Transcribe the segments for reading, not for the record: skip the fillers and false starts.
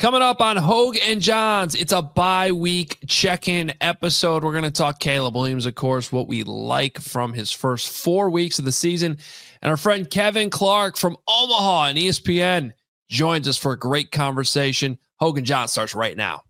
Coming up on Hogue and Johns, it's a bye-week check-in episode. We're going to talk Caleb Williams, of course, what we like from his first 4 weeks of the season. And our friend Kevin Clark from Omaha and ESPN joins us for a great conversation. Hogue and Johns starts right now.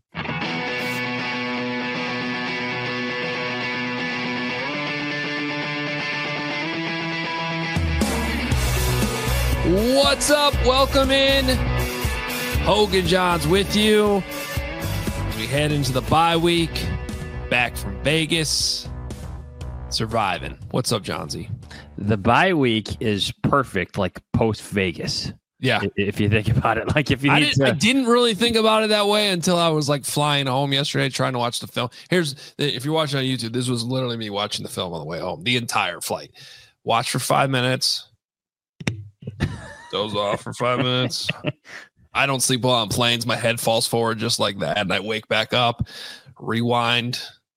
What's up? Welcome in. Hogue and Johns with you as we head into the bye week, back from Vegas, surviving. What's up, Johnsy? The bye week is perfect, like post-Vegas. Yeah. If you think about it. Like if you I didn't really think about it that way until I was like flying home yesterday trying to watch the film. If you're watching on YouTube, this was literally me watching the film on the way home, the entire flight. Watch for 5 minutes. Doze off for 5 minutes. I don't sleep well on planes. My head falls forward just like that. And I wake back up, rewind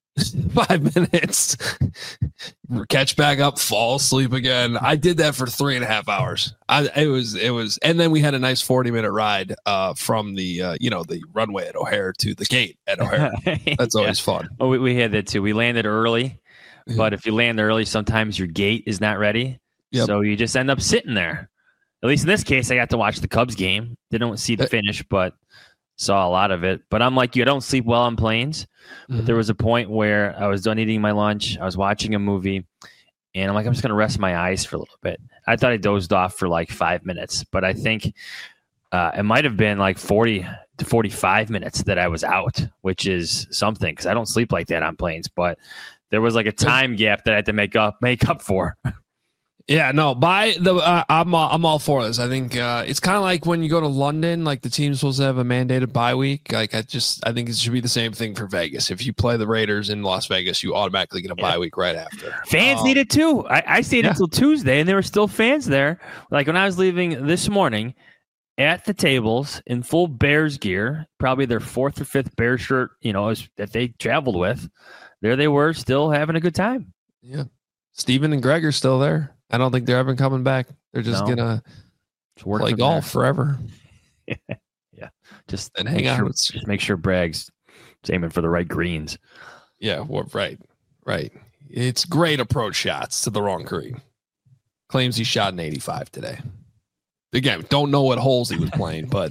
5 minutes, catch back up, fall asleep again. I did that for 3.5 hours. It was, and then we had a nice 40-minute ride from the runway at O'Hare to the gate at O'Hare. That's always fun. Oh, we had that too. We landed early, but if you land early, sometimes your gate is not ready. Yep. So you just end up sitting there. At least in this case, I got to watch the Cubs game. Didn't see the finish, but saw a lot of it. But I'm like you, I don't sleep well on planes. Mm-hmm. But there was a point where I was done eating my lunch. I was watching a movie, and I'm like, I'm just going to rest my eyes for a little bit. I thought I dozed off for like 5 minutes, but I think it might have been like 40 to 45 minutes that I was out, which is something because I don't sleep like that on planes. But there was like a time gap that I had to make up for. Yeah, no, I'm all for this. I think it's kind of like when you go to London, like the team's supposed to have a mandated bye week. Like I think it should be the same thing for Vegas. If you play the Raiders in Las Vegas, you automatically get a bye week right after. Fans need it too. I stayed until Tuesday, and there were still fans there. Like when I was leaving this morning, at the tables in full Bears gear, probably their 4th or 5th Bears shirt, that they traveled with. There they were, still having a good time. Yeah, Steven and Greg are still there. I don't think they're ever coming back. They're just gonna play golf forever. Yeah, just and hang out. Just make sure Bragg's aiming for the right greens. Yeah, well, right. It's great approach shots to the wrong green. Claims he shot an 85 today. Again, don't know what holes he was playing, but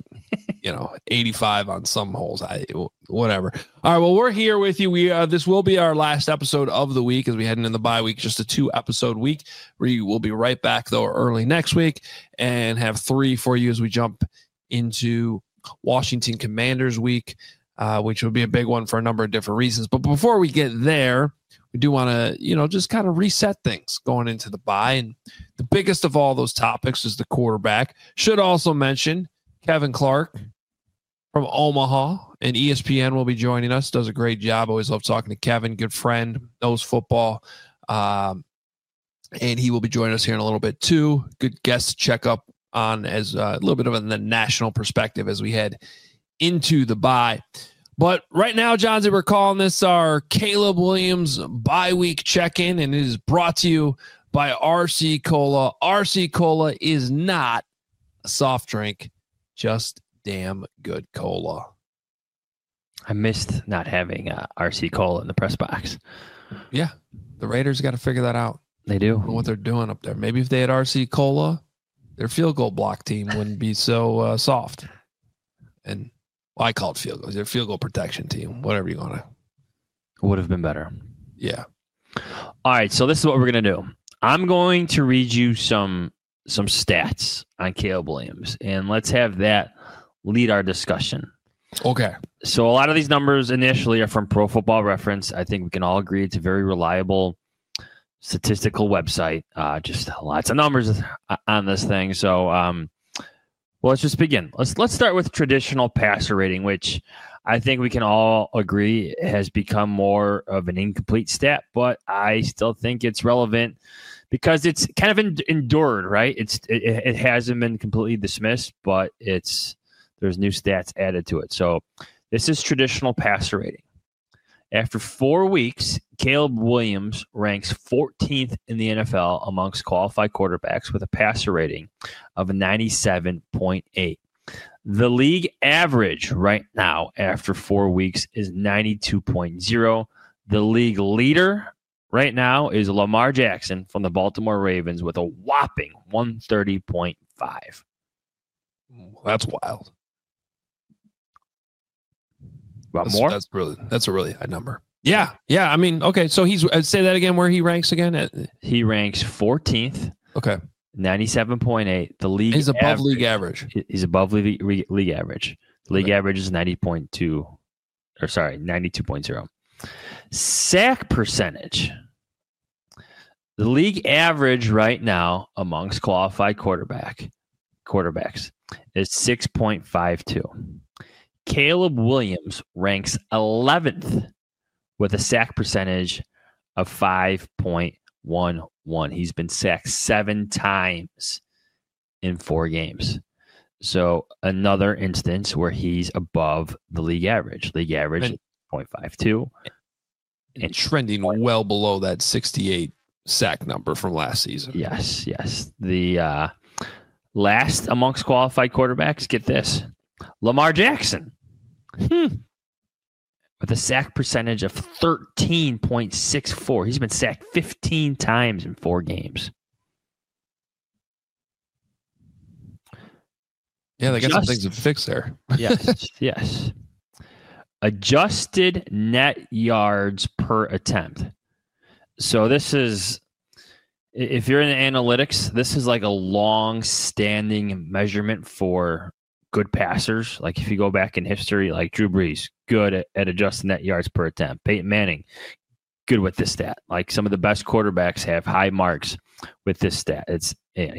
85 on some holes. Whatever. All right. Well, we're here with you. This will be our last episode of the week as we head into the bye week. Just a 2-episode week. We will be right back though early next week and have 3 for you as we jump into Washington Commanders week, which will be a big one for a number of different reasons. But before we get there, we do want to, just kind of reset things going into the bye. And the biggest of all those topics is the quarterback. Should also mention Kevin Clark from Omaha and ESPN will be joining us. Does a great job. Always love talking to Kevin. Good friend, knows football. And he will be joining us here in a little bit too. Good guest to check up on as a little bit of the national perspective as we head into the bye. But right now, Johnsy, we're calling this our Caleb Williams bye week check-in, and it is brought to you by RC Cola. RC Cola is not a soft drink, just damn good cola. I missed not having RC Cola in the press box. Yeah, the Raiders got to figure that out. They do. I don't know what they're doing up there. Maybe if they had RC Cola, their field goal block team wouldn't be so soft. And I call it field goals. Their field goal protection team, whatever you want to. Would have been better. Yeah. All right, so this is what we're going to do. I'm going to read you some stats on Caleb Williams, and let's have that lead our discussion. Okay. So a lot of these numbers initially are from Pro Football Reference. I think we can all agree it's a very reliable statistical website. Just lots of numbers on this thing. So, well, let's just begin. Let's start with traditional passer rating, which I think we can all agree has become more of an incomplete stat, but I still think it's relevant because it's kind of endured, right? It hasn't been completely dismissed, but there's new stats added to it. So this is traditional passer rating. After 4 weeks, Caleb Williams ranks 14th in the NFL amongst qualified quarterbacks with a passer rating of 97.8. The league average right now after 4 weeks is 92.0. The league leader right now is Lamar Jackson from the Baltimore Ravens with a whopping 130.5. That's wild. More? That's a really high number. Yeah. I mean, okay. So he's say that again. Where he ranks again? He ranks 14th. Okay. 97.8. The league. He's above league average. He's above league average. The league average is 92.0. Sack percentage. The league average right now amongst qualified quarterbacks is 6.52. Caleb Williams ranks 11th with a sack percentage of 5.11. He's been sacked 7 times in 4 games. So another instance where he's above the league average. League average is 0.52. And trending well below that 68 sack number from last season. Yes. The last amongst qualified quarterbacks, get this, Lamar Jackson. With a sack percentage of 13.64. He's been sacked 15 times in 4 games. Yeah, they got some things to fix there. Yes. Adjusted net yards per attempt. So this is, if you're in analytics, this is like a long-standing measurement for good passers. Like if you go back in history, like Drew Brees, good at adjusted net yards per attempt. Peyton Manning, good with this stat. Like some of the best quarterbacks have high marks with this stat. It's,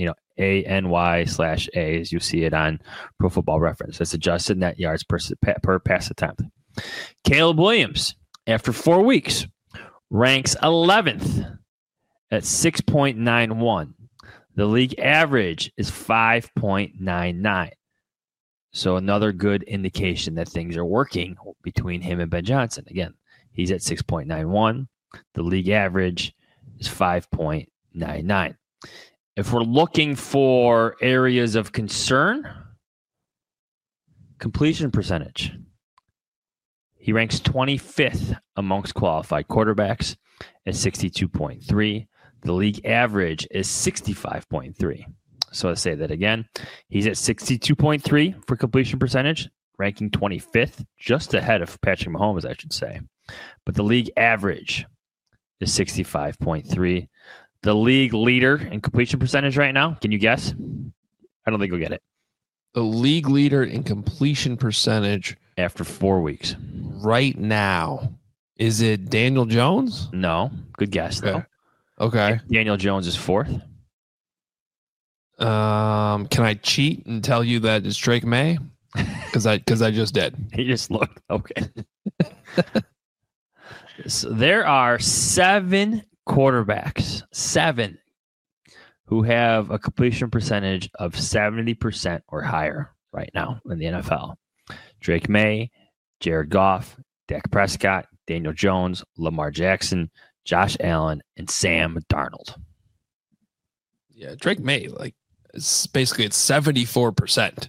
ANY/A, as you see it on Pro Football Reference. That's adjusted net yards per pass attempt. Caleb Williams, after 4 weeks, ranks 11th at 6.91. The league average is 5.99. So another good indication that things are working between him and Ben Johnson. Again, he's at 6.91. The league average is 5.99. If we're looking for areas of concern, completion percentage. He ranks 25th amongst qualified quarterbacks at 62.3. The league average is 65.3. So to say that again, he's at 62.3 for completion percentage, ranking 25th, just ahead of Patrick Mahomes, I should say. But the league average is 65.3. The league leader in completion percentage right now, can you guess? I don't think you'll get it. The league leader in completion percentage after 4 weeks. Right now, is it Daniel Jones? No. Good guess, though. Okay. Daniel Jones is 4th. Can I cheat and tell you that it's Drake May? Because I just did. He just looked. Okay. So there are 7 quarterbacks, 7, who have a completion percentage of 70% or higher right now in the NFL. Drake May, Jared Goff, Dak Prescott, Daniel Jones, Lamar Jackson, Josh Allen, and Sam Darnold. Yeah, Drake May, it's 74%.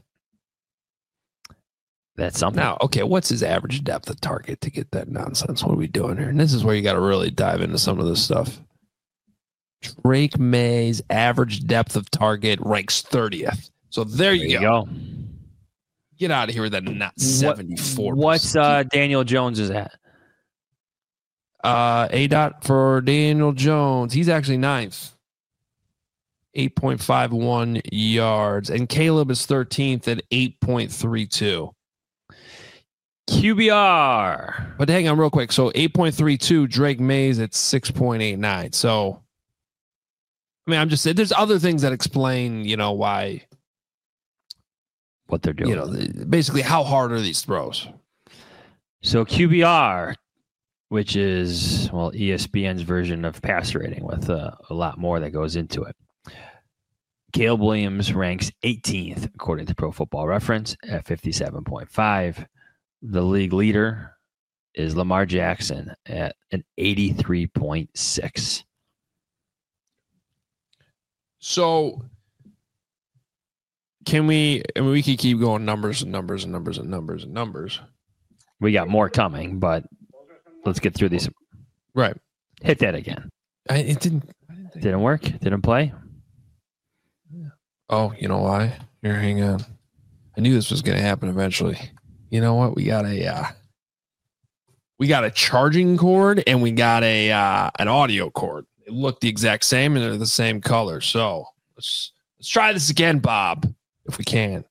That's something. Now, okay, what's his average depth of target to get that nonsense? What are we doing here? And this is where you got to really dive into some of this stuff. Drake May's average depth of target ranks 30th. So there you go. Get out of here with that not 74%. What's Daniel Jones is at? A. for Daniel Jones. He's actually 9th. 8.51 yards. And Caleb is 13th at 8.32. QBR. But hang on real quick. So 8.32, Drake May's at 6.89. So, I mean, I'm just saying there's other things that explain, why. What they're doing. Basically, how hard are these throws? So QBR, which is, ESPN's version of passer rating with a lot more that goes into it. Caleb Williams ranks 18th, according to Pro Football Reference, at 57.5. The league leader is Lamar Jackson at an 83.6. So can we? I mean, we could keep going numbers and numbers and numbers and numbers and numbers. We got more coming, but let's get through these. Right. Hit that again. It didn't. Didn't work. Didn't play. Oh, you know why? Here, hang on. I knew this was going to happen eventually. You know what? We got a charging cord and we got an audio cord. It looked the exact same and they're the same color. So let's try this again, Bob, if we can.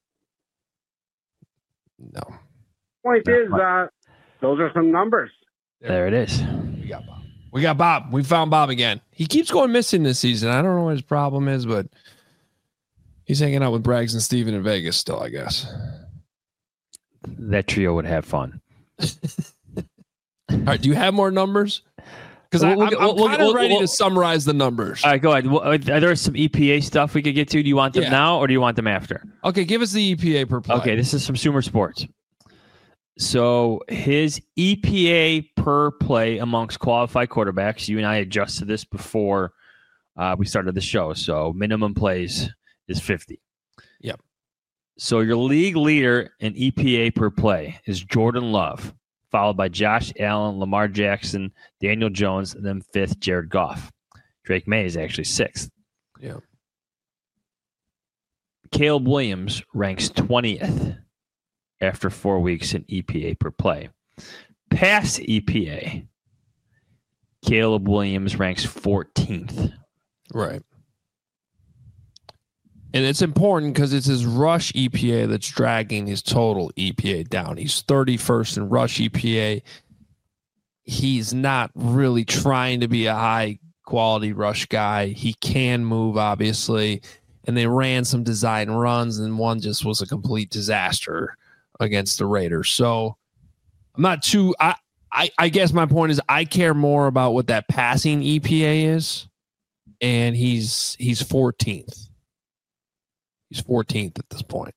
No. Point is, those are some numbers. There it is. We got Bob. We found Bob again. He keeps going missing this season. I don't know what his problem is, but he's hanging out with Braggs and Steven in Vegas still, I guess. That trio would have fun. All right. Do you have more numbers? Because I'm kind of ready to summarize the numbers. All right, go ahead. Are there some EPA stuff we could get to? Do you want them now or do you want them after? Okay, give us the EPA per play. Okay, this is from Sumer Sports. So his EPA per play amongst qualified quarterbacks, you and I adjusted this before we started the show. So minimum plays is 50. Yep. So your league leader in EPA per play is Jordan Love, followed by Josh Allen, Lamar Jackson, Daniel Jones, and then fifth, Jared Goff. Drake May is actually sixth. Yeah. Caleb Williams ranks 20th after 4 weeks in EPA per play. Past EPA, Caleb Williams ranks 14th. Right. And it's important because it's his rush EPA that's dragging his total EPA down. He's 31st in rush EPA. He's not really trying to be a high quality rush guy. He can move, obviously. And they ran some design runs, and one just was a complete disaster against the Raiders. So I'm not too I guess my point is I care more about what that passing EPA is. And he's 14th. He's 14th at this point.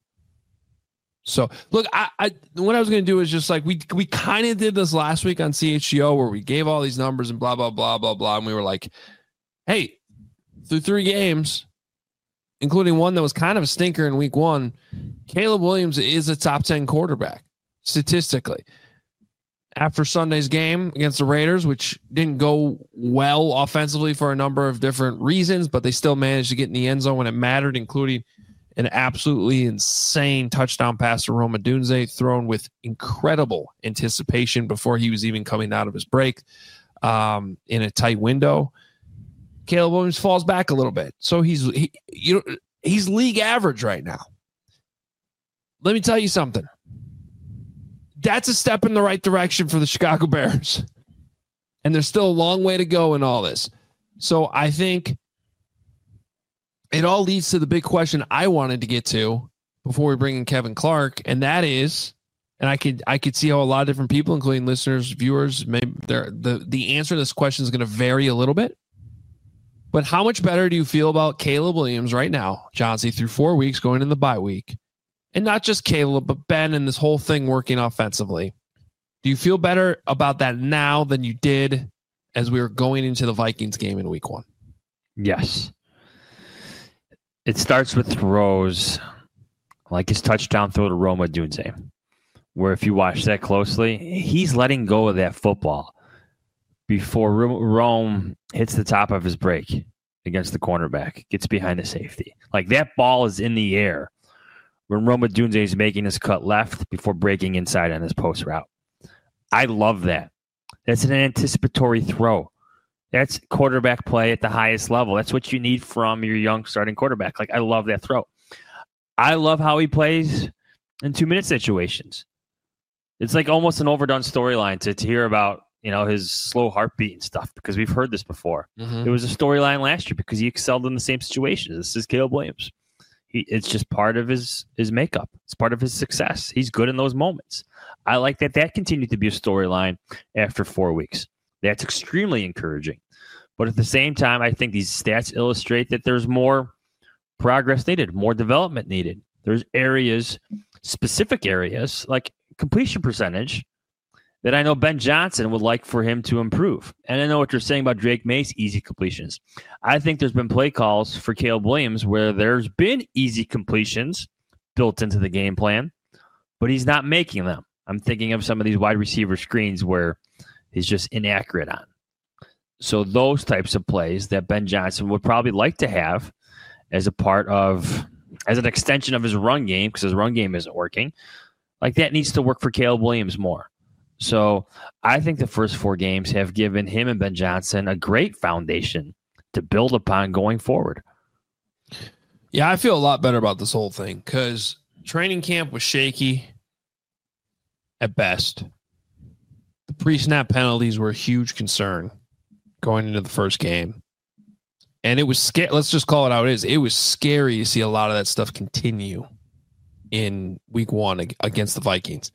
So look, I what I was going to do is just like we kind of did this last week on CHGO where we gave all these numbers and blah, blah, blah, blah, blah. And we were like, hey, through 3 games, including one that was kind of a stinker in week 1, Caleb Williams is a top 10 quarterback statistically. After Sunday's game against the Raiders, which didn't go well offensively for a number of different reasons, but they still managed to get in the end zone when it mattered, including an absolutely insane touchdown pass to Rome Odunze thrown with incredible anticipation before he was even coming out of his break in a tight window. Caleb Williams falls back a little bit. So he's league average right now. Let me tell you something. That's a step in the right direction for the Chicago Bears. And there's still a long way to go in all this. So I think it all leads to the big question I wanted to get to before we bring in Kevin Clark. And that is, and I could see how a lot of different people, including listeners, viewers, maybe the answer to this question is going to vary a little bit. But how much better do you feel about Caleb Williams right now, Johnsy, through 4 weeks going in the bye week? And not just Caleb, but Ben and this whole thing working offensively. Do you feel better about that now than you did as we were going into the Vikings game in week 1? Yes. It starts with throws like his touchdown throw to Rome Odunze, where if you watch that closely, he's letting go of that football before Rome hits the top of his break against the cornerback, gets behind the safety. Like that ball is in the air when Rome Odunze is making his cut left before breaking inside on his post route. I love that. That's an anticipatory throw. That's quarterback play at the highest level. That's what you need from your young starting quarterback. Like, I love that throw. I love how he plays in 2-minute situations. It's like almost an overdone storyline to hear about, his slow heartbeat and stuff, because we've heard this before. Mm-hmm. It was a storyline last year because he excelled in the same situations. This is Caleb Williams. It's just part of his makeup. It's part of his success. He's good in those moments. I like that continued to be a storyline after 4 weeks. That's extremely encouraging. But at the same time, I think these stats illustrate that there's more progress needed, more development needed. There's specific areas like completion percentage that I know Ben Johnson would like for him to improve. And I know what you're saying about Drake May's easy completions. I think there's been play calls for Caleb Williams where there's been easy completions, built into the game plan, but he's not making them. I'm thinking of some of these wide receiver screens where he's just inaccurate on. So those types of plays that Ben Johnson would probably like to have as an extension of his run game, because his run game isn't working, like that needs to work for Caleb Williams more. So I think the first 4 games have given him and Ben Johnson a great foundation to build upon going forward. Yeah, I feel a lot better about this whole thing because training camp was shaky at best. The pre-snap penalties were a huge concern going into the first game. And it was scary. Let's just call it how it is. It was scary to see a lot of that stuff continue in week 1 against the Vikings.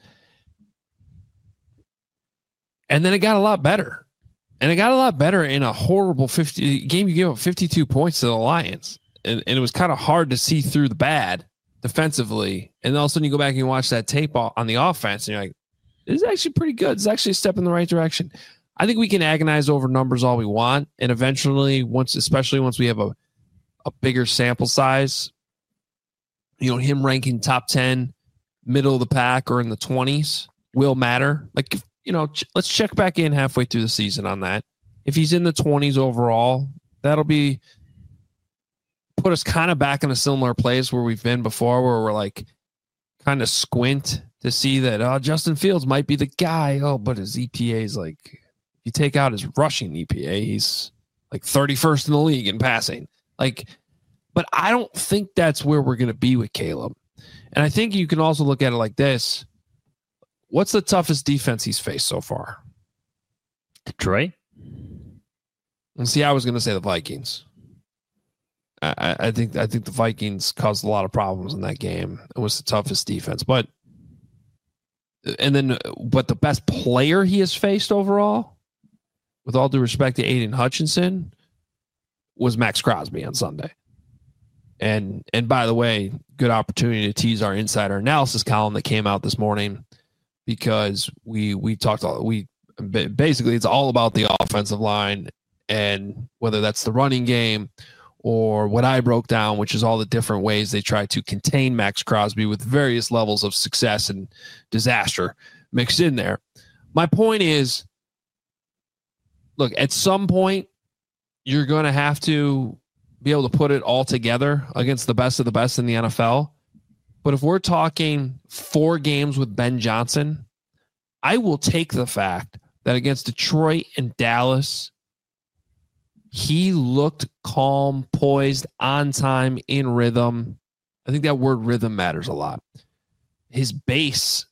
And then it got a lot better. And it got a lot better in a horrible game. You gave up 52 points to the Lions. And it was kind of hard to see through the bad defensively. And all of a sudden you go back and you watch that tape on the offense and you're like, this is actually pretty good. It's actually a step in the right direction. I think we can agonize over numbers all we want. And eventually, especially once we have a bigger sample size, him ranking top 10, middle of the pack, or in the 20s will matter. Like, let's check back in halfway through the season on that. If he's in the 20s overall, that'll put us kind of back in a similar place where we've been before, where we're like kind of squint to see that Justin Fields might be the guy. Oh, but his EPA is like, if you take out his rushing EPA, he's like 31st in the league in passing. Like, but I don't think that's where we're going to be with Caleb. And I think you can also look at it like this. What's the toughest defense he's faced so far? Detroit. And see, I was going to say the Vikings. I think the Vikings caused a lot of problems in that game. It was the toughest defense, but the best player he has faced overall, with all due respect to Aiden Hutchinson, was Max Crosby on Sunday. And by the way, good opportunity to tease our insider analysis column that came out this morning, because we basically it's all about the offensive line, and whether that's the running game or what I broke down, which is all the different ways they try to contain Max Crosby with various levels of success and disaster mixed in there. My point is, look, at some point, you're going to have to be able to put it all together against the best of the best in the NFL. But if we're talking 4 games with Ben Johnson, I will take the fact that against Detroit and Dallas, he looked calm, poised, on time, in rhythm. I think that word rhythm matters a lot. His base,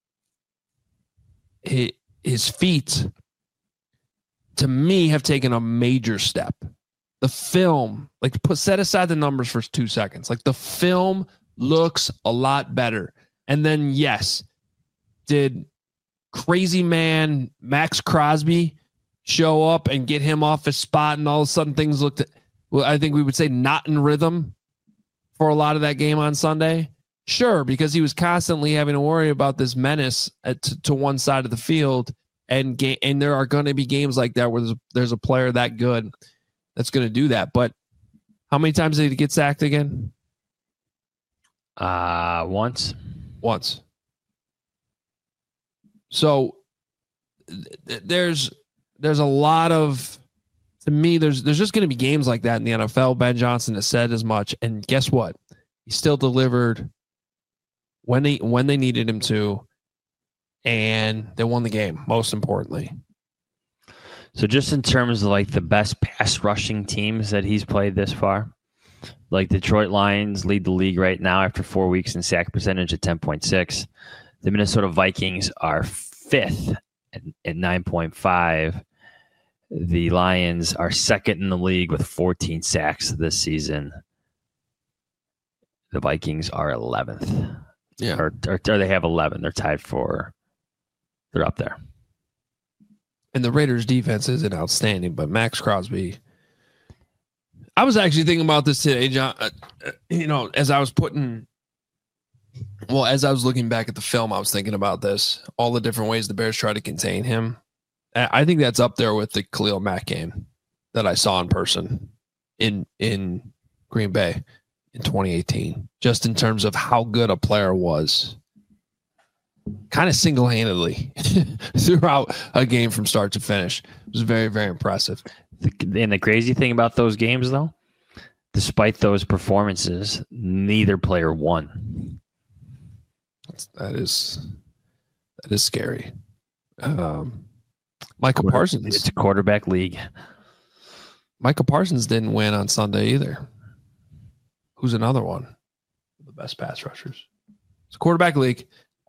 his feet, to me, have taken a major step. The film, set aside the numbers for 2 seconds. Like, the film looks a lot better. And then, yes, did crazy man Max Crosby show up and get him off his spot, and all of a sudden things looked, well, I think we would say not in rhythm for a lot of that game on Sunday? Sure, because he was constantly having to worry about this menace to one side of the field, and there are going to be games like that where there's a player that good that's going to do that. But how many times did he get sacked again? Once. So there's a lot of, to me, there's just going to be games like that in the NFL. Ben Johnson has said as much, and guess what? He still delivered when they needed him to, and they won the game, most importantly. So just in terms of the best pass rushing teams that he's played this far, Detroit Lions lead the league right now after 4 weeks in sack percentage at 10.6. The Minnesota Vikings are 5th at 9.5. The Lions are 2nd in the league with 14 sacks this season. The Vikings are 11th. Yeah. Or they have 11. They're tied for, they're up there. And the Raiders defense isn't outstanding, but Max Crosby, I was actually thinking about this today, John. As I was looking back at the film, I was thinking about this, all the different ways the Bears try to contain him. I think that's up there with the Khalil Mack game that I saw in person in Green Bay. in 2018, just in terms of how good a player was. Kind of single-handedly throughout a game from start to finish. It was very, very impressive. And the crazy thing about those games, though, despite those performances, neither player won. That is scary. Michael Parsons. It's a quarterback league. Michael Parsons didn't win on Sunday either. Who's another one? The best pass rushers. It's a quarterback league.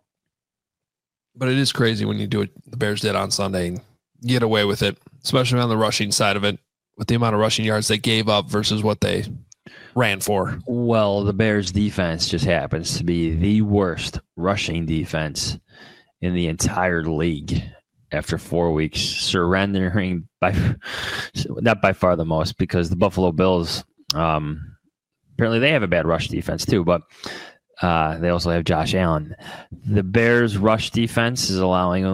But it is crazy when you do what the Bears did on Sunday and get away with it, especially on the rushing side of it, with the amount of rushing yards they gave up versus what they ran for. Well, the Bears defense just happens to be the worst rushing defense in the entire league after 4 weeks, surrendering not by far the most, because the Buffalo Bills, apparently they have a bad rush defense too, but they also have Josh Allen. The Bears' rush defense is allowing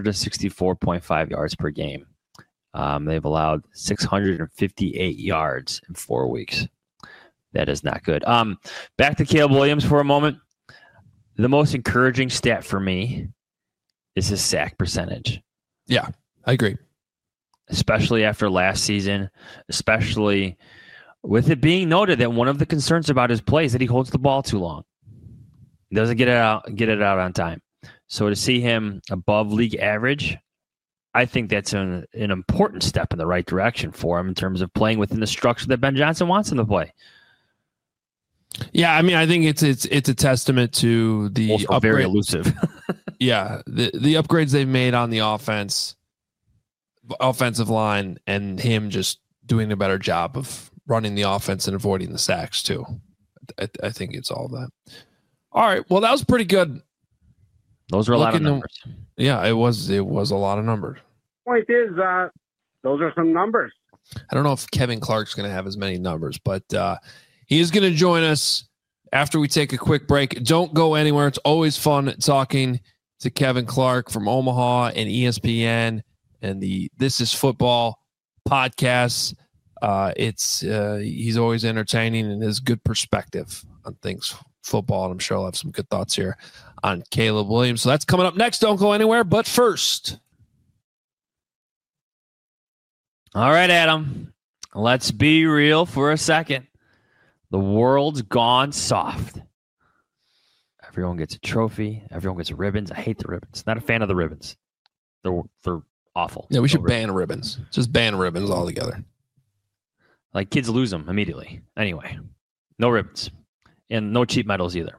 164.5 yards per game. They've allowed 658 yards in 4 weeks. That is not good. Back to Caleb Williams for a moment. The most encouraging stat for me is his sack percentage. Yeah, I agree. Especially after last season, especially with it being noted that one of the concerns about his play is that he holds the ball too long. He doesn't get it out on time. So to see him above league average, I think that's an important step in the right direction for him in terms of playing within the structure that Ben Johnson wants him to play. Yeah, I mean, I think it's a testament to the also very elusive. Yeah, the upgrades they've made on the offensive line, and him just doing a better job of running the offense and avoiding the sacks too. I think it's all that. All right, well, that was pretty good. Those are a lot of numbers. Yeah, it was a lot of numbers. Point is, those are some numbers. I don't know if Kevin Clark's going to have as many numbers, but he is going to join us after we take a quick break. Don't go anywhere. It's always fun talking to Kevin Clark from Omaha and ESPN and the This Is Football podcast. He's always entertaining and has good perspective on things football, and I'm sure I'll have some good thoughts here on Caleb Williams. So that's coming up next. Don't go anywhere. But first. All right, Adam. Let's be real for a second. The world's gone soft. Everyone gets a trophy. Everyone gets ribbons. I hate the ribbons. Not a fan of the ribbons. They're awful. Yeah, we should ban ribbons. Just ban ribbons altogether. Like, kids lose them immediately. Anyway, no ribbons. And no cheap medals either.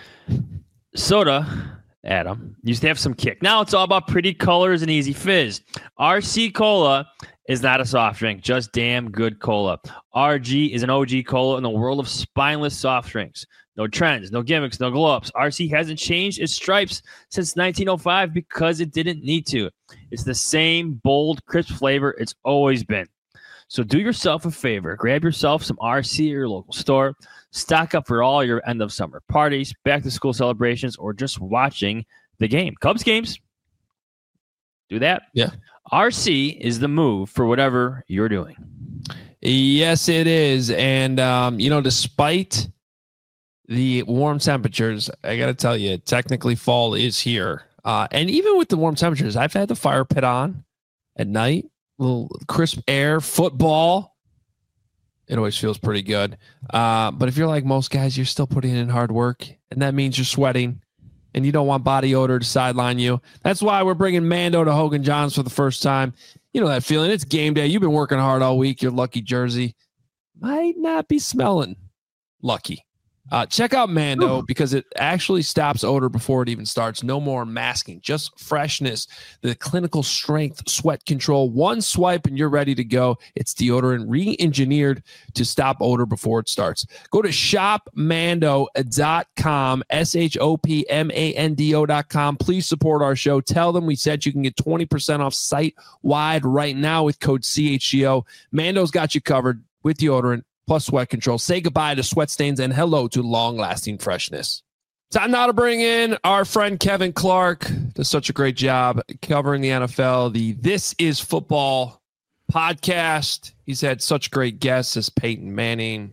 Soda, Adam, used to have some kick. Now it's all about pretty colors and easy fizz. RC Cola is not a soft drink, just damn good cola. RG is an OG cola in the world of spineless soft drinks. No trends, no gimmicks, no glow-ups. RC hasn't changed its stripes since 1905 because it didn't need to. It's the same bold, crisp flavor it's always been. So do yourself a favor. Grab yourself some RC at your local store. Stock up for all your end-of-summer parties, back-to-school celebrations, or just watching the game. Cubs games. Do that. Yeah. RC is the move for whatever you're doing. Yes, it is. And, despite the warm temperatures, I got to tell you, technically fall is here. And even with the warm temperatures, I've had the fire pit on at night, a little crisp air, football. It always feels pretty good. But if you're like most guys, you're still putting in hard work, and that means you're sweating, and you don't want body odor to sideline you. That's why we're bringing Mando to Hogan Johns for the first time. You know that feeling. It's game day. You've been working hard all week. Your lucky jersey might not be smelling lucky. Check out Mando because it actually stops odor before it even starts. No more masking, just freshness. The clinical strength, sweat control. One swipe and you're ready to go. It's deodorant re-engineered to stop odor before it starts. Go to shopmando.com, shopmando.com. Please support our show. Tell them we said you can get 20% off site-wide right now with code CHGO. Mando's got you covered with deodorant plus sweat control. Say goodbye to sweat stains and hello to long-lasting freshness. Time now to bring in our friend Kevin Clark. Does such a great job covering the NFL, the This Is Football podcast. He's had such great guests as Peyton Manning,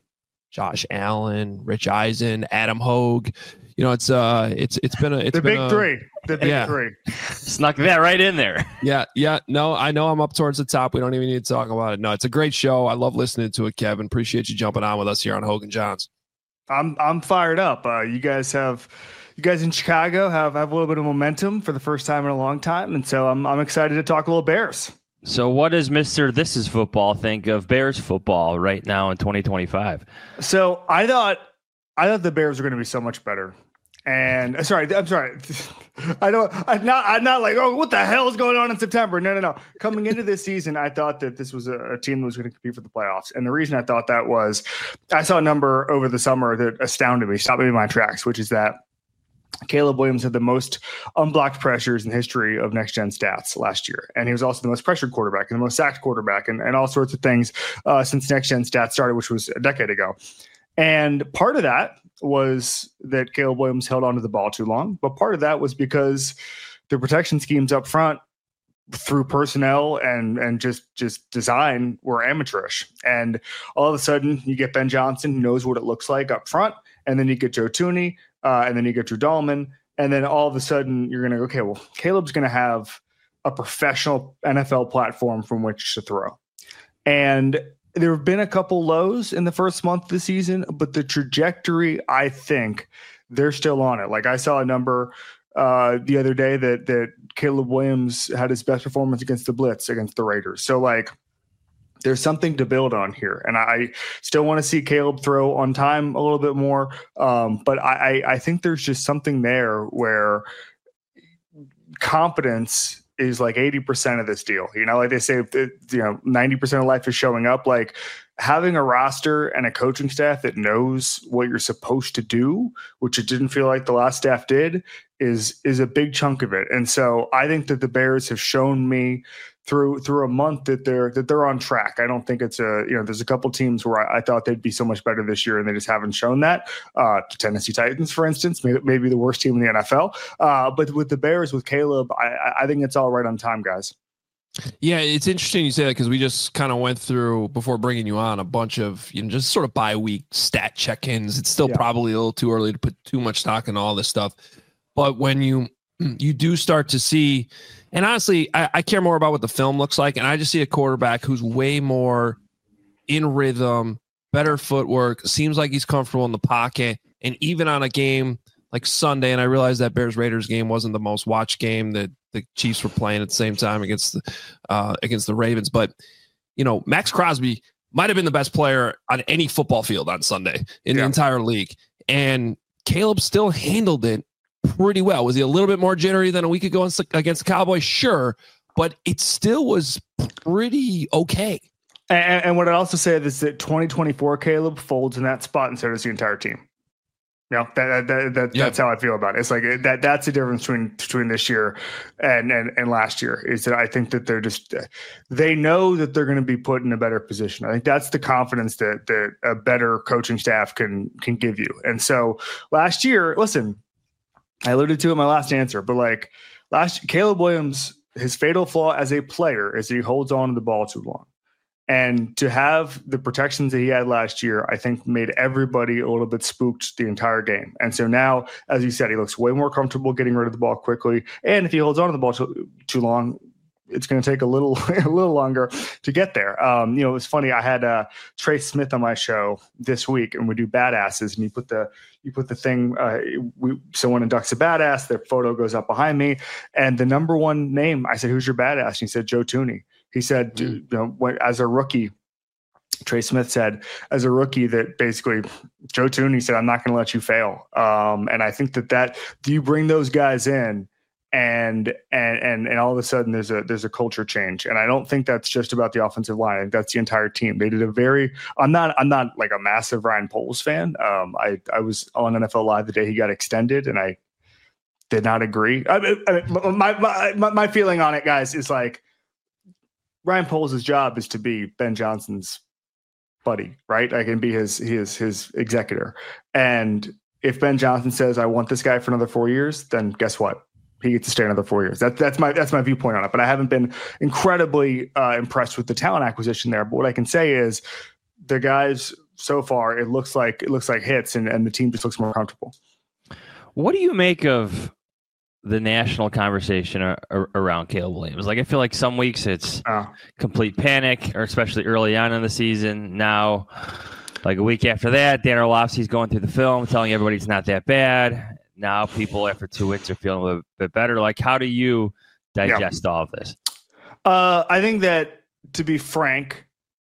Josh Allen, Rich Eisen, Adam Hogue. You know, it's been the big three. The big three. Snuck that right in there. Yeah. No, I know I'm up towards the top. We don't even need to talk about it. No, it's a great show. I love listening to it, Kevin. Appreciate you jumping on with us here on Hogue and Johns. I'm fired up. You guys in Chicago have a little bit of momentum for the first time in a long time, and so I'm excited to talk a little Bears. So what does Mr. This Is Football think of Bears football right now in 2025? So I thought the Bears were going to be so much better. And I'm sorry. I'm not like, oh, what the hell is going on in September? No. Coming into this season, I thought that this was a team that was going to compete for the playoffs. And the reason I thought that was I saw a number over the summer that astounded me, stopped me in my tracks, which is that Caleb Williams had the most unblocked pressures in the history of Next Gen Stats last year. And he was also the most pressured quarterback and the most sacked quarterback and all sorts of things since Next Gen Stats started, which was a decade ago. And part of that was that Caleb Williams held onto the ball too long. But part of that was because the protection schemes up front through personnel and just design were amateurish. And all of a sudden you get Ben Johnson, who knows what it looks like up front. And then you get Joe Thuney, and then you get Drew Dahlman. And then all of a sudden you're going to go, okay, well, Caleb's going to have a professional NFL platform from which to throw. And there have been a couple lows in the first month of the season, but the trajectory, I think they're still on it. Like I saw a number the other day that Caleb Williams had his best performance against the blitz against the Raiders. So like there's something to build on here. And I still want to see Caleb throw on time a little bit more. But I think there's just something there where competence is like 80% of this deal. You know, like they say, 90% of life is showing up. Like having a roster and a coaching staff that knows what you're supposed to do, which it didn't feel like the last staff did, is a big chunk of it. And so I think that the Bears have shown me through a month that they're on track. I don't think it's there's a couple teams where I thought they'd be so much better this year and they just haven't shown that. The Tennessee Titans, for instance, maybe the worst team in the NFL. But with the Bears, with Caleb, I think it's all right on time, guys. Yeah, it's interesting you say that because we just kind of went through, before bringing you on, a bunch of just sort of bye-week stat check-ins. It's still probably a little too early to put too much stock in all this stuff. But when you do start to see, and honestly, I care more about what the film looks like, and I just see a quarterback who's way more in rhythm, better footwork, seems like he's comfortable in the pocket, and even on a game like Sunday, and I realize that Bears-Raiders game wasn't the most watched game that the Chiefs were playing at the same time against the Ravens, but Max Crosby might have been the best player on any football field on Sunday in the entire league, and Caleb still handled it pretty well. Was he a little bit more jittery than a week ago against the Cowboys? Sure, but it still was pretty okay. And what I also say is that 2024 Caleb folds in that spot, and so does the entire team. That's how I feel about it. It's like that's the difference between this year and last year, is that I think that they know that they're going to be put in a better position. I think that's the confidence that a better coaching staff can give you. And so last year, listen, I alluded to it in my last answer, but Caleb Williams, his fatal flaw as a player is that he holds on to the ball too long. And to have the protections that he had last year, I think made everybody a little bit spooked the entire game. And so now, as you said, he looks way more comfortable getting rid of the ball quickly. And if he holds on to the ball too long, it's going to take a little longer to get there. It was funny. I had Trey Smith on my show this week, and we do badasses, and you put the thing. Someone inducts a badass. Their photo goes up behind me, and the number one name. I said, "Who's your badass?" And he said, "Joe Thuney." He said, as a rookie, Trey Smith said, as a rookie, that basically Joe Thuney said, "I'm not going to let you fail." And I think that you bring those guys in, and all of a sudden there's a culture change. And I don't think that's just about the offensive line. I think that's the entire team. They did I'm not like a massive Ryan Poles fan. I was on NFL Live the day he got extended, and I did not agree. My feeling on it, guys, is like, Ryan Poles' job is to be Ben Johnson's buddy, right? I can be his executor. And if Ben Johnson says, "I want this guy for another 4 years," then guess what? He gets to stay another 4 years. That's my viewpoint on it. But I haven't been incredibly impressed with the talent acquisition there. But what I can say is the guys so far, it looks like hits, and the team just looks more comfortable. What do you make of the national conversation around Caleb Williams? Like, I feel like some weeks it's complete panic, or especially early on in the season. Now, like a week after that, Dan Orlovsky's going through the film, telling everybody it's not that bad. Now people after 2 weeks are feeling a little bit better. Like, how do you digest all of this? I think that, to be frank,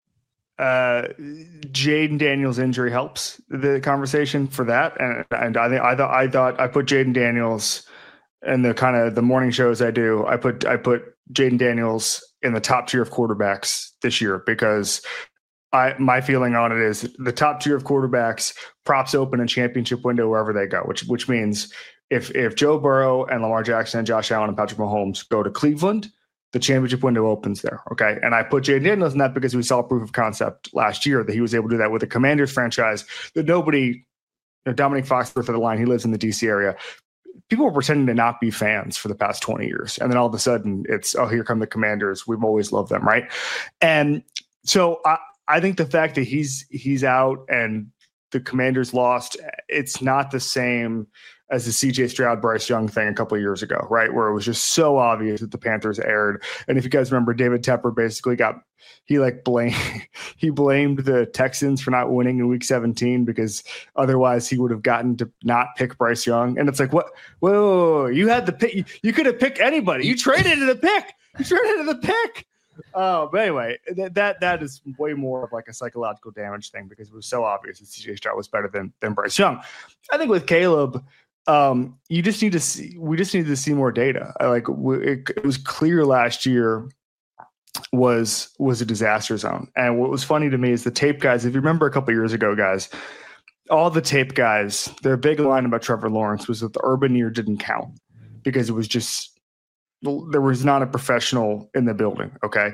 Jaden Daniels' injury helps the conversation for that, and I thought I put Jaden Daniels in the kind of the morning shows I do. I put Jaden Daniels in the top tier of quarterbacks this year, because my feeling on it is the top tier of quarterbacks props open a championship window wherever they go, which means if Joe Burrow and Lamar Jackson and Josh Allen and Patrick Mahomes go to Cleveland, the championship window opens there. Okay. And I put Jaden Daniels in that because we saw proof of concept last year that he was able to do that with a Commanders franchise that nobody, Dominic Foxworth of the line, he lives in the DC area. People were pretending to not be fans for the past 20 years. And then all of a sudden it's, oh, here come the Commanders. We've always loved them. Right. And so I think the fact that he's out and the Commanders lost, it's not the same as the CJ Stroud, Bryce Young thing a couple of years ago, right? Where it was just so obvious that the Panthers erred. And if you guys remember, David Tepper basically blamed the Texans for not winning in week 17 because otherwise he would have gotten to not pick Bryce Young. And it's like, what? Whoa, you had the pick. You could have picked anybody. You traded to the pick. But anyway, that is way more of like a psychological damage thing because it was so obvious that CJ Stroud was better than Bryce Young. I think with Caleb, we just need to see more data. Like it was clear last year was a disaster zone. And what was funny to me is the tape guys, if you remember a couple of years ago, guys, all the tape guys, their big line about Trevor Lawrence was that the urban year didn't count because it was just, there was not a professional in the building. Okay.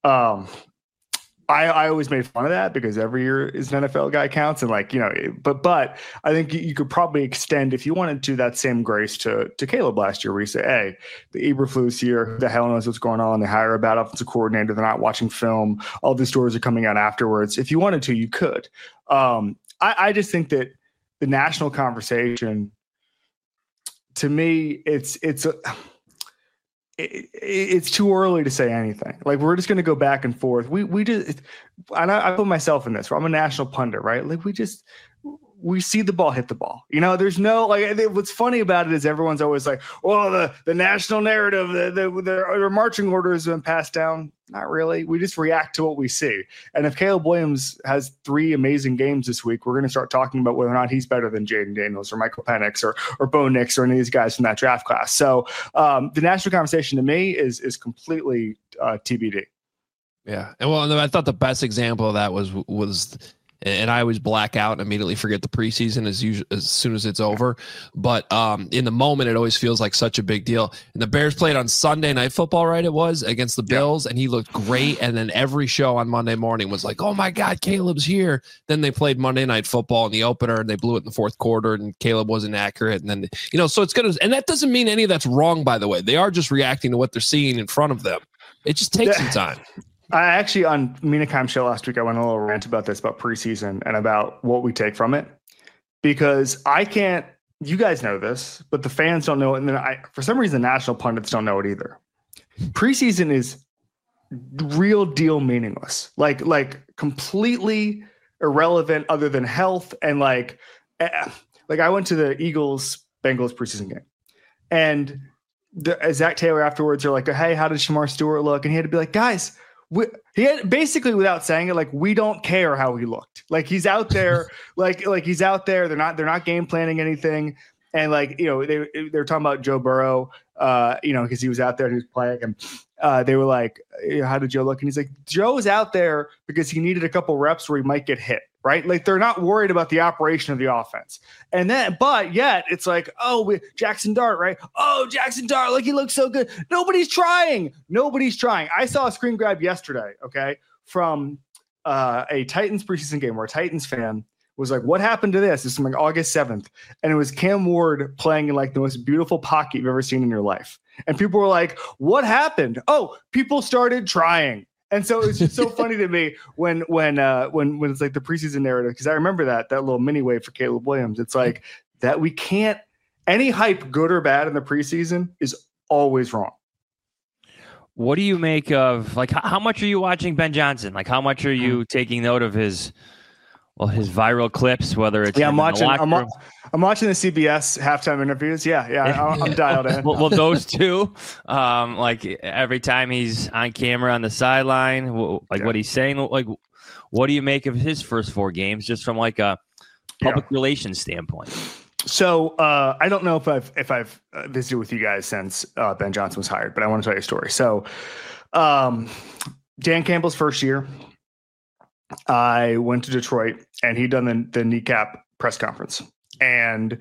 I always made fun of that because every year is an NFL guy counts. And like, but I think you could probably extend, if you wanted to, that same grace to Caleb last year, where you say, hey, the Eberflus here, who the hell knows what's going on? They hire a bad offensive coordinator. They're not watching film. All these stories are coming out afterwards. If you wanted to, you could. I just think that the national conversation, to me, it's too early to say anything. Like, we're just going to go back and forth. We just, and I put myself in this, where I'm a national pundit, right? Like, we see the ball hit the ball. There's no, like, what's funny about it is everyone's always like, well, the national narrative, the marching order has been passed down. Not really. We just react to what we see. And if Caleb Williams has 3 amazing games this week, we're going to start talking about whether or not he's better than Jaden Daniels or Michael Penix or Bo Nix or any of these guys from that draft class. So the national conversation to me is completely TBD. Yeah. And I thought the best example of that was and I always black out and immediately forget the preseason as soon as it's over. But in the moment, it always feels like such a big deal. And the Bears played on Sunday Night Football, right? It was against the Bills, and he looked great. And then every show on Monday morning was like, oh my God, Caleb's here. Then they played Monday Night Football in the opener, and they blew it in the fourth quarter, and Caleb wasn't accurate. And then, so it's going to, and that doesn't mean any of that's wrong, by the way. They are just reacting to what they're seeing in front of them. It just takes some time. I actually, on Mina Kimes' show last week, I went on a little rant about this, about preseason and about what we take from it, because you guys know this, but the fans don't know it. And then for some reason, the national pundits don't know it either. Preseason is real deal meaningless, like completely irrelevant other than health. And like I went to the Eagles-Bengals preseason game, and Zach Taylor afterwards are like, hey, how did Shamar Stewart look? And he had to be like, guys, he had basically, without saying it, like, we don't care how he looked. Like, he's out there, like he's out there. They're not game planning anything. And like, they're talking about Joe Burrow, because he was out there and he was playing. And they were like, how did Joe look? And he's like, Joe was out there because he needed a couple reps where he might get hit. Right? Like, they're not worried about the operation of the offense. And then, but yet it's like, Jackson Dart, right? Oh, Jackson Dart, like, he looks so good. Nobody's trying. I saw a screen grab yesterday, okay, from a Titans preseason game where a Titans fan was like, what happened to this? This is like August 7th. And it was Cam Ward playing in like the most beautiful pocket you've ever seen in your life. And people were like, what happened? Oh, people started trying. And so it's just so funny to me when it's like the preseason narrative, because I remember that little mini wave for Caleb Williams. It's like that we can't, any hype, good or bad, in the preseason is always wrong. What do you make of, like, how much are you watching Ben Johnson? Like, how much are you taking note of his viral clips, whether it's I'm watching the CBS halftime interviews. I'm dialed in. well, those two, like every time he's on camera on the sideline, what he's saying, like, what do you make of his first 4 games, just from like a public relations standpoint? So I don't know if I've visited with you guys since Ben Johnson was hired, but I want to tell you a story. So Dan Campbell's first year, I went to Detroit, and he'd done the kneecap press conference. And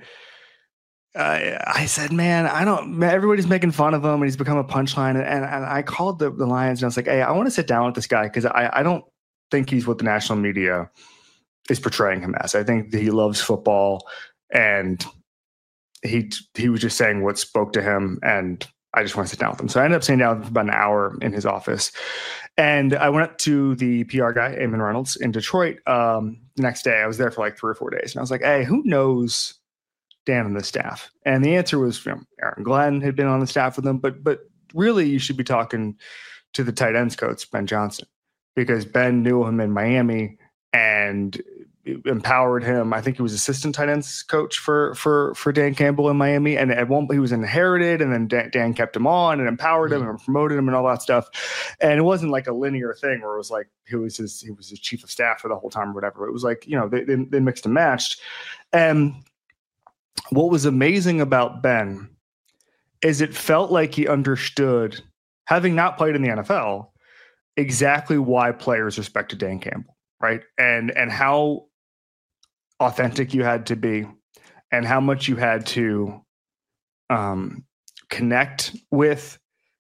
I said, man, everybody's making fun of him, and he's become a punchline. And I called the Lions, and I was like, hey, I want to sit down with this guy, because I don't think he's what the national media is portraying him as. I think that he loves football, and he was just saying what spoke to him, and I just want to sit down with him. So I ended up sitting down for about an hour in his office. And I went up to the PR guy, Eamon Reynolds, in Detroit. The next day, I was there for like 3 or 4 days. And I was like, hey, who knows Dan and the staff? And the answer was, Aaron Glenn had been on the staff with him. But really, you should be talking to the tight ends coach, Ben Johnson, because Ben knew him in Miami and empowered him. I think he was assistant tight ends coach for Dan Campbell in Miami, and at one point he was inherited, and then Dan kept him on and empowered him and promoted him and all that stuff. And it wasn't like a linear thing where it was like he was his chief of staff for the whole time or whatever. It was like, they mixed and matched. And what was amazing about Ben is it felt like he understood, having not played in the NFL, exactly why players respected Dan Campbell, right? And how authentic you had to be, and how much you had to connect with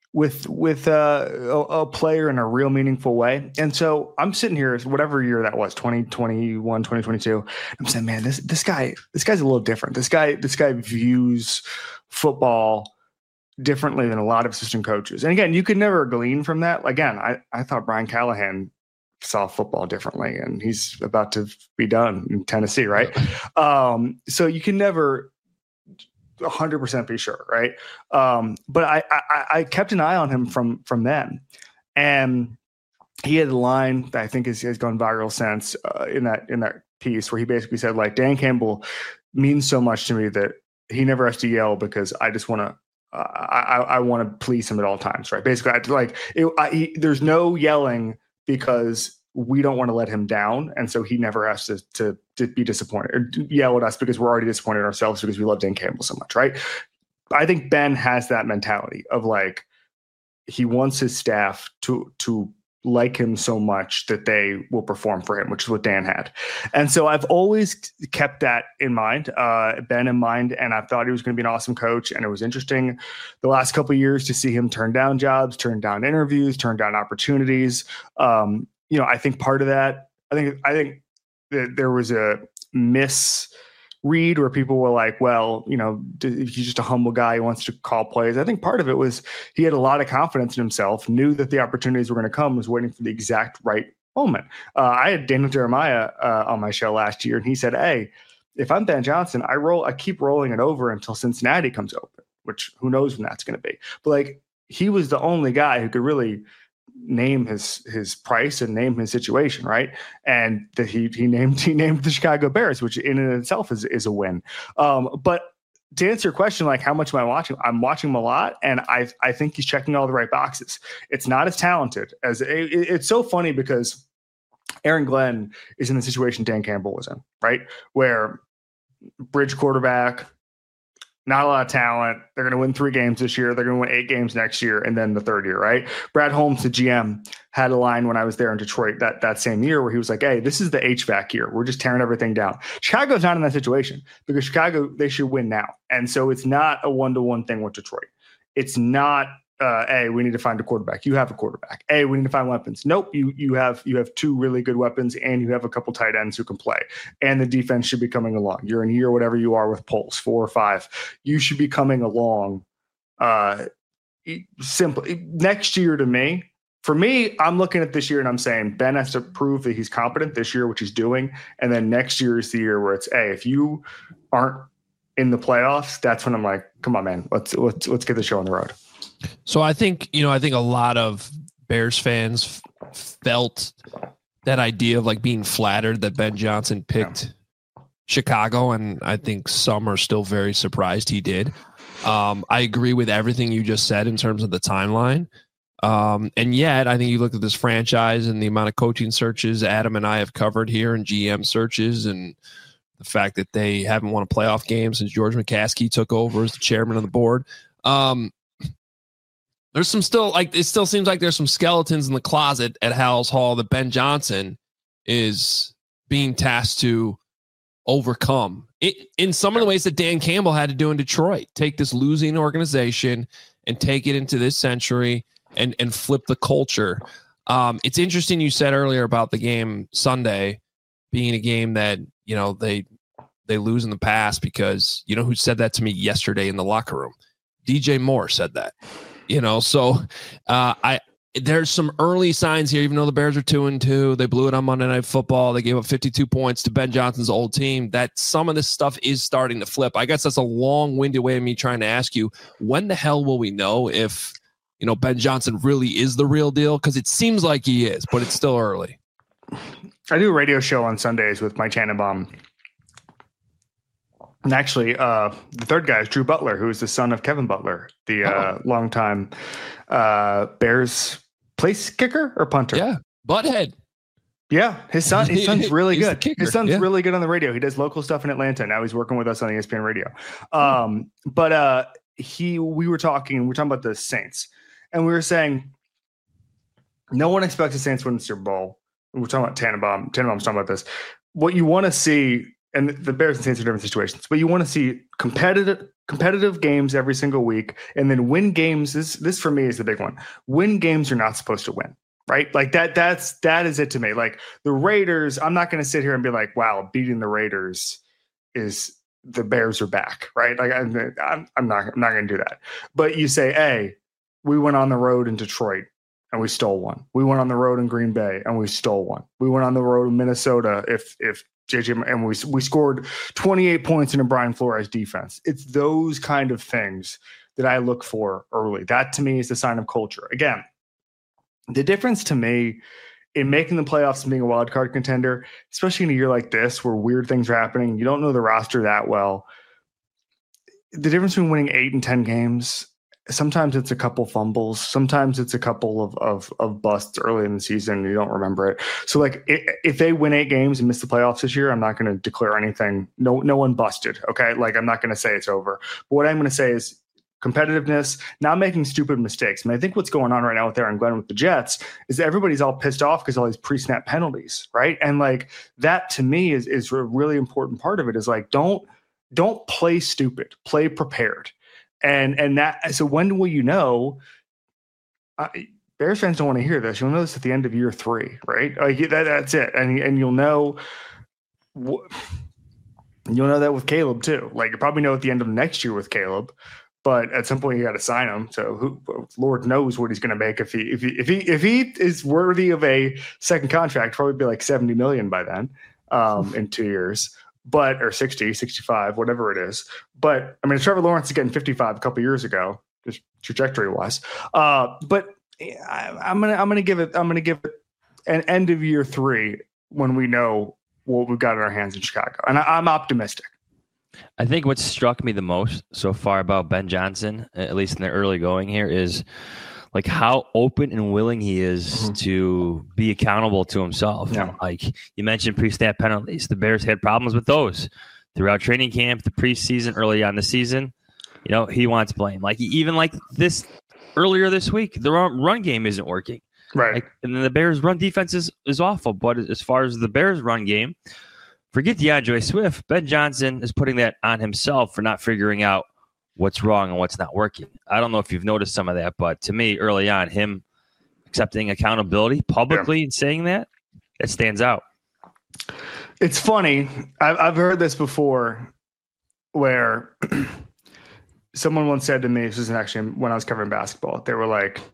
a player in a real meaningful way. And so I'm sitting here, whatever year that was, 2021, 2022. I'm saying, man, this guy's a little different. This guy views football differently than a lot of assistant coaches. And again, you could never glean from that. Again, I thought Brian Callahan saw football differently, and he's about to be done in Tennessee, right? So you can never 100% be sure, right? But I kept an eye on him from then, and he had a line that I think has gone viral since in that piece, where he basically said, like, Dan Campbell means so much to me that he never has to yell, because I just want to. I want to please him at all times, right? Basically, there's no yelling, because we don't want to let him down. And so he never has to be disappointed or yell at us, because we're already disappointed in ourselves because we love Dan Campbell so much, right? I think Ben has that mentality of, like, he wants his staff to like him so much that they will perform for him, which is what Dan had. And so I've always kept that in mind, Ben in mind, and I thought he was going to be an awesome coach. And it was interesting the last couple of years to see him turn down jobs, turn down interviews, turn down opportunities. I think part of that, I think that there was a misread where people were like, well, he's just a humble guy who wants to call plays. I think part of it was he had a lot of confidence in himself, knew that the opportunities were going to come, was waiting for the exact right moment. I had Daniel Jeremiah on my show last year, and he said, hey, if I'm Ben Johnson, I keep rolling it over until Cincinnati comes open, which who knows when that's going to be. But, like, he was the only guy who could really name his price and name his situation, right? And that he named the Chicago Bears, which in and of itself is a win. But to answer your question, like, how much am I watching? I'm watching him a lot, and I think he's checking all the right boxes. It's not as talented as it's so funny, because Aaron Glenn is in the situation Dan Campbell was in, right? Where bridge quarterback, not a lot of talent. They're going to win 3 games this year. They're going to win 8 games next year, and then the third year, right? Brad Holmes, the GM, had a line when I was there in Detroit that same year where he was like, hey, this is the HVAC year. We're just tearing everything down. Chicago's not in that situation, because Chicago, they should win now. And so it's not a one-to-one thing with Detroit. It's not, hey, we need to find a quarterback. You have a quarterback. Hey, we need to find weapons. Nope, you have 2 really good weapons, and you have a couple tight ends who can play. And the defense should be coming along. You're in year whatever you are with Pulse, 4 or 5. You should be coming along simply. Next year, to me, for me, I'm looking at this year and I'm saying Ben has to prove that he's competent this year, which he's doing. And then next year is the year where it's, hey, if you aren't in the playoffs, that's when I'm like, come on, man, let's get the show on the road. So I think a lot of Bears fans felt that idea of like being flattered that Ben Johnson picked Chicago. And I think some are still very surprised he did. I agree with everything you just said in terms of the timeline. And yet I think you look at this franchise and the amount of coaching searches Adam and I have covered here and GM searches and the fact that they haven't won a playoff game since George McCaskey took over as the chairman of the board. There's some still like, it still seems like there's some skeletons in the closet at Halas Hall that Ben Johnson is being tasked to overcome it in some of the ways that Dan Campbell had to do in Detroit. Take this losing organization and take it into this century and flip the culture. It's interesting you said earlier about the game Sunday being a game that, they lose in the past because you know who said that to me yesterday in the locker room? DJ Moore said that. So there's some early signs here, even though the Bears are 2-2, they blew it on Monday Night Football. They gave up 52 points to Ben Johnson's old team, that some of this stuff is starting to flip. I guess that's a long-winded way of me trying to ask you, when the hell will we know if, Ben Johnson really is the real deal? Because it seems like he is, but it's still early. I do a radio show on Sundays with Mike Tannenbaum. And actually, the third guy is Drew Butler, who is the son of Kevin Butler, the longtime Bears place kicker or punter. Yeah, butthead. Yeah, his son's really good. His son's really good on the radio. He does local stuff in Atlanta. Now he's working with us on ESPN Radio. We were talking about the Saints, and we were saying no one expects the Saints to win the Super Bowl. We're talking about Tannenbaum. Tannenbaum's talking about this. What you want to see. And the Bears and Saints are different situations, but you want to see competitive games every single week, and then win games. This for me is the big one. Win games you're not supposed to win, right? Like that is it to me. Like the Raiders, I'm not going to sit here and be like, wow, beating the Raiders is the Bears are back, right? Like I'm not going to do that. But you say, hey, we went on the road in Detroit and we stole one. We went on the road in Green Bay and we stole one. We went on the road in Minnesota. If JJ, and we scored 28 points in a Brian Flores defense. It's those kind of things that I look for early. That to me is the sign of culture. Again, the difference to me in making the playoffs and being a wild card contender, especially in a year like this where weird things are happening, you don't know the roster that well. The difference between winning 8 and 10 games, sometimes it's a couple fumbles. Sometimes it's a couple of busts early in the season. And you don't remember it. So like if they win 8 games and miss the playoffs this year, I'm not going to declare anything. No one busted. Okay. Like I'm not going to say it's over, but what I'm going to say is competitiveness, not making stupid mistakes. I mean, I think what's going on right now with Aaron Glenn with the Jets is that everybody's all pissed off because all these pre-snap penalties. Right. And like that to me is a really important part of it is like, don't play stupid, play prepared. And that, so when will you know? Bears fans don't want to hear this. You'll know this at the end of year 3, right? Like that's it, and you'll know. You'll know that with Caleb too. Like you probably know at the end of next year with Caleb, but at some point you got to sign him. So Lord knows what he's going to make if he is worthy of a second contract. Probably be like $70 million by then, in 2 years. Or 60, 65, whatever it is. But I mean, Trevor Lawrence is getting 55 a couple years ago, just trajectory wise. But I'm gonna give it an end of year 3 when we know what we've got in our hands in Chicago, and I'm optimistic. I think what struck me the most so far about Ben Johnson, at least in the early going here, is like how open and willing he is to be accountable to himself. Yeah. Like you mentioned pre-snap penalties. The Bears had problems with those throughout training camp, the preseason, early on the season. He wants blame. Like even like this earlier this week, the run game isn't working. Right. And then the Bears run defense is awful. But as far as the Bears run game, forget DeAndre Swift. Ben Johnson is putting that on himself for not figuring out what's wrong and what's not working. I don't know if you've noticed some of that, but to me, early on, him accepting accountability publicly and saying that, it stands out. It's funny. I've heard this before where someone once said to me, this was actually when I was covering basketball, they were like,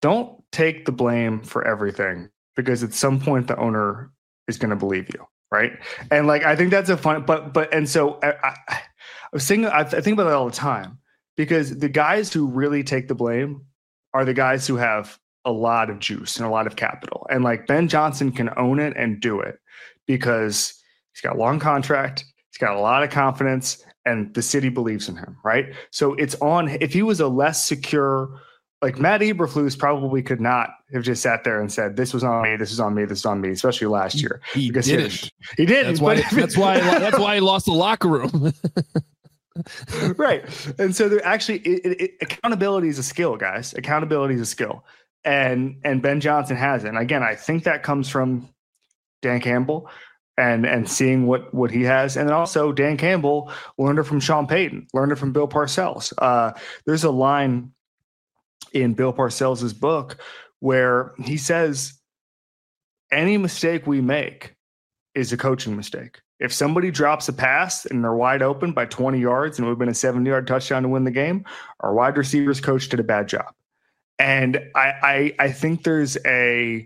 don't take the blame for everything, because at some point the owner is going to believe you, right? And like, I think that's a fun, and so I was thinking, I think about that all the time, because the guys who really take the blame are the guys who have a lot of juice and a lot of capital. And like Ben Johnson can own it and do it because he's got a long contract, he's got a lot of confidence, and the city believes in him, right? So it's on. If he was a less secure, like Matt Eberflus probably could not have just sat there and said, "This was on me. This is on me. This is on me." Especially last year, he didn't. He didn't. That's why he lost the locker room. Right. And so there actually accountability is a skill, guys. Accountability is a skill, and Ben Johnson has it. And again, I think that comes from Dan Campbell and seeing what he has. And then also Dan Campbell learned it from Sean Payton, learned it from Bill Parcells. There's a line in Bill Parcells' book where he says, any mistake we make is a coaching mistake. If somebody drops a pass and they're wide open by 20 yards and it would have been a 70-yard touchdown to win the game, our wide receivers coach did a bad job. And I think there's a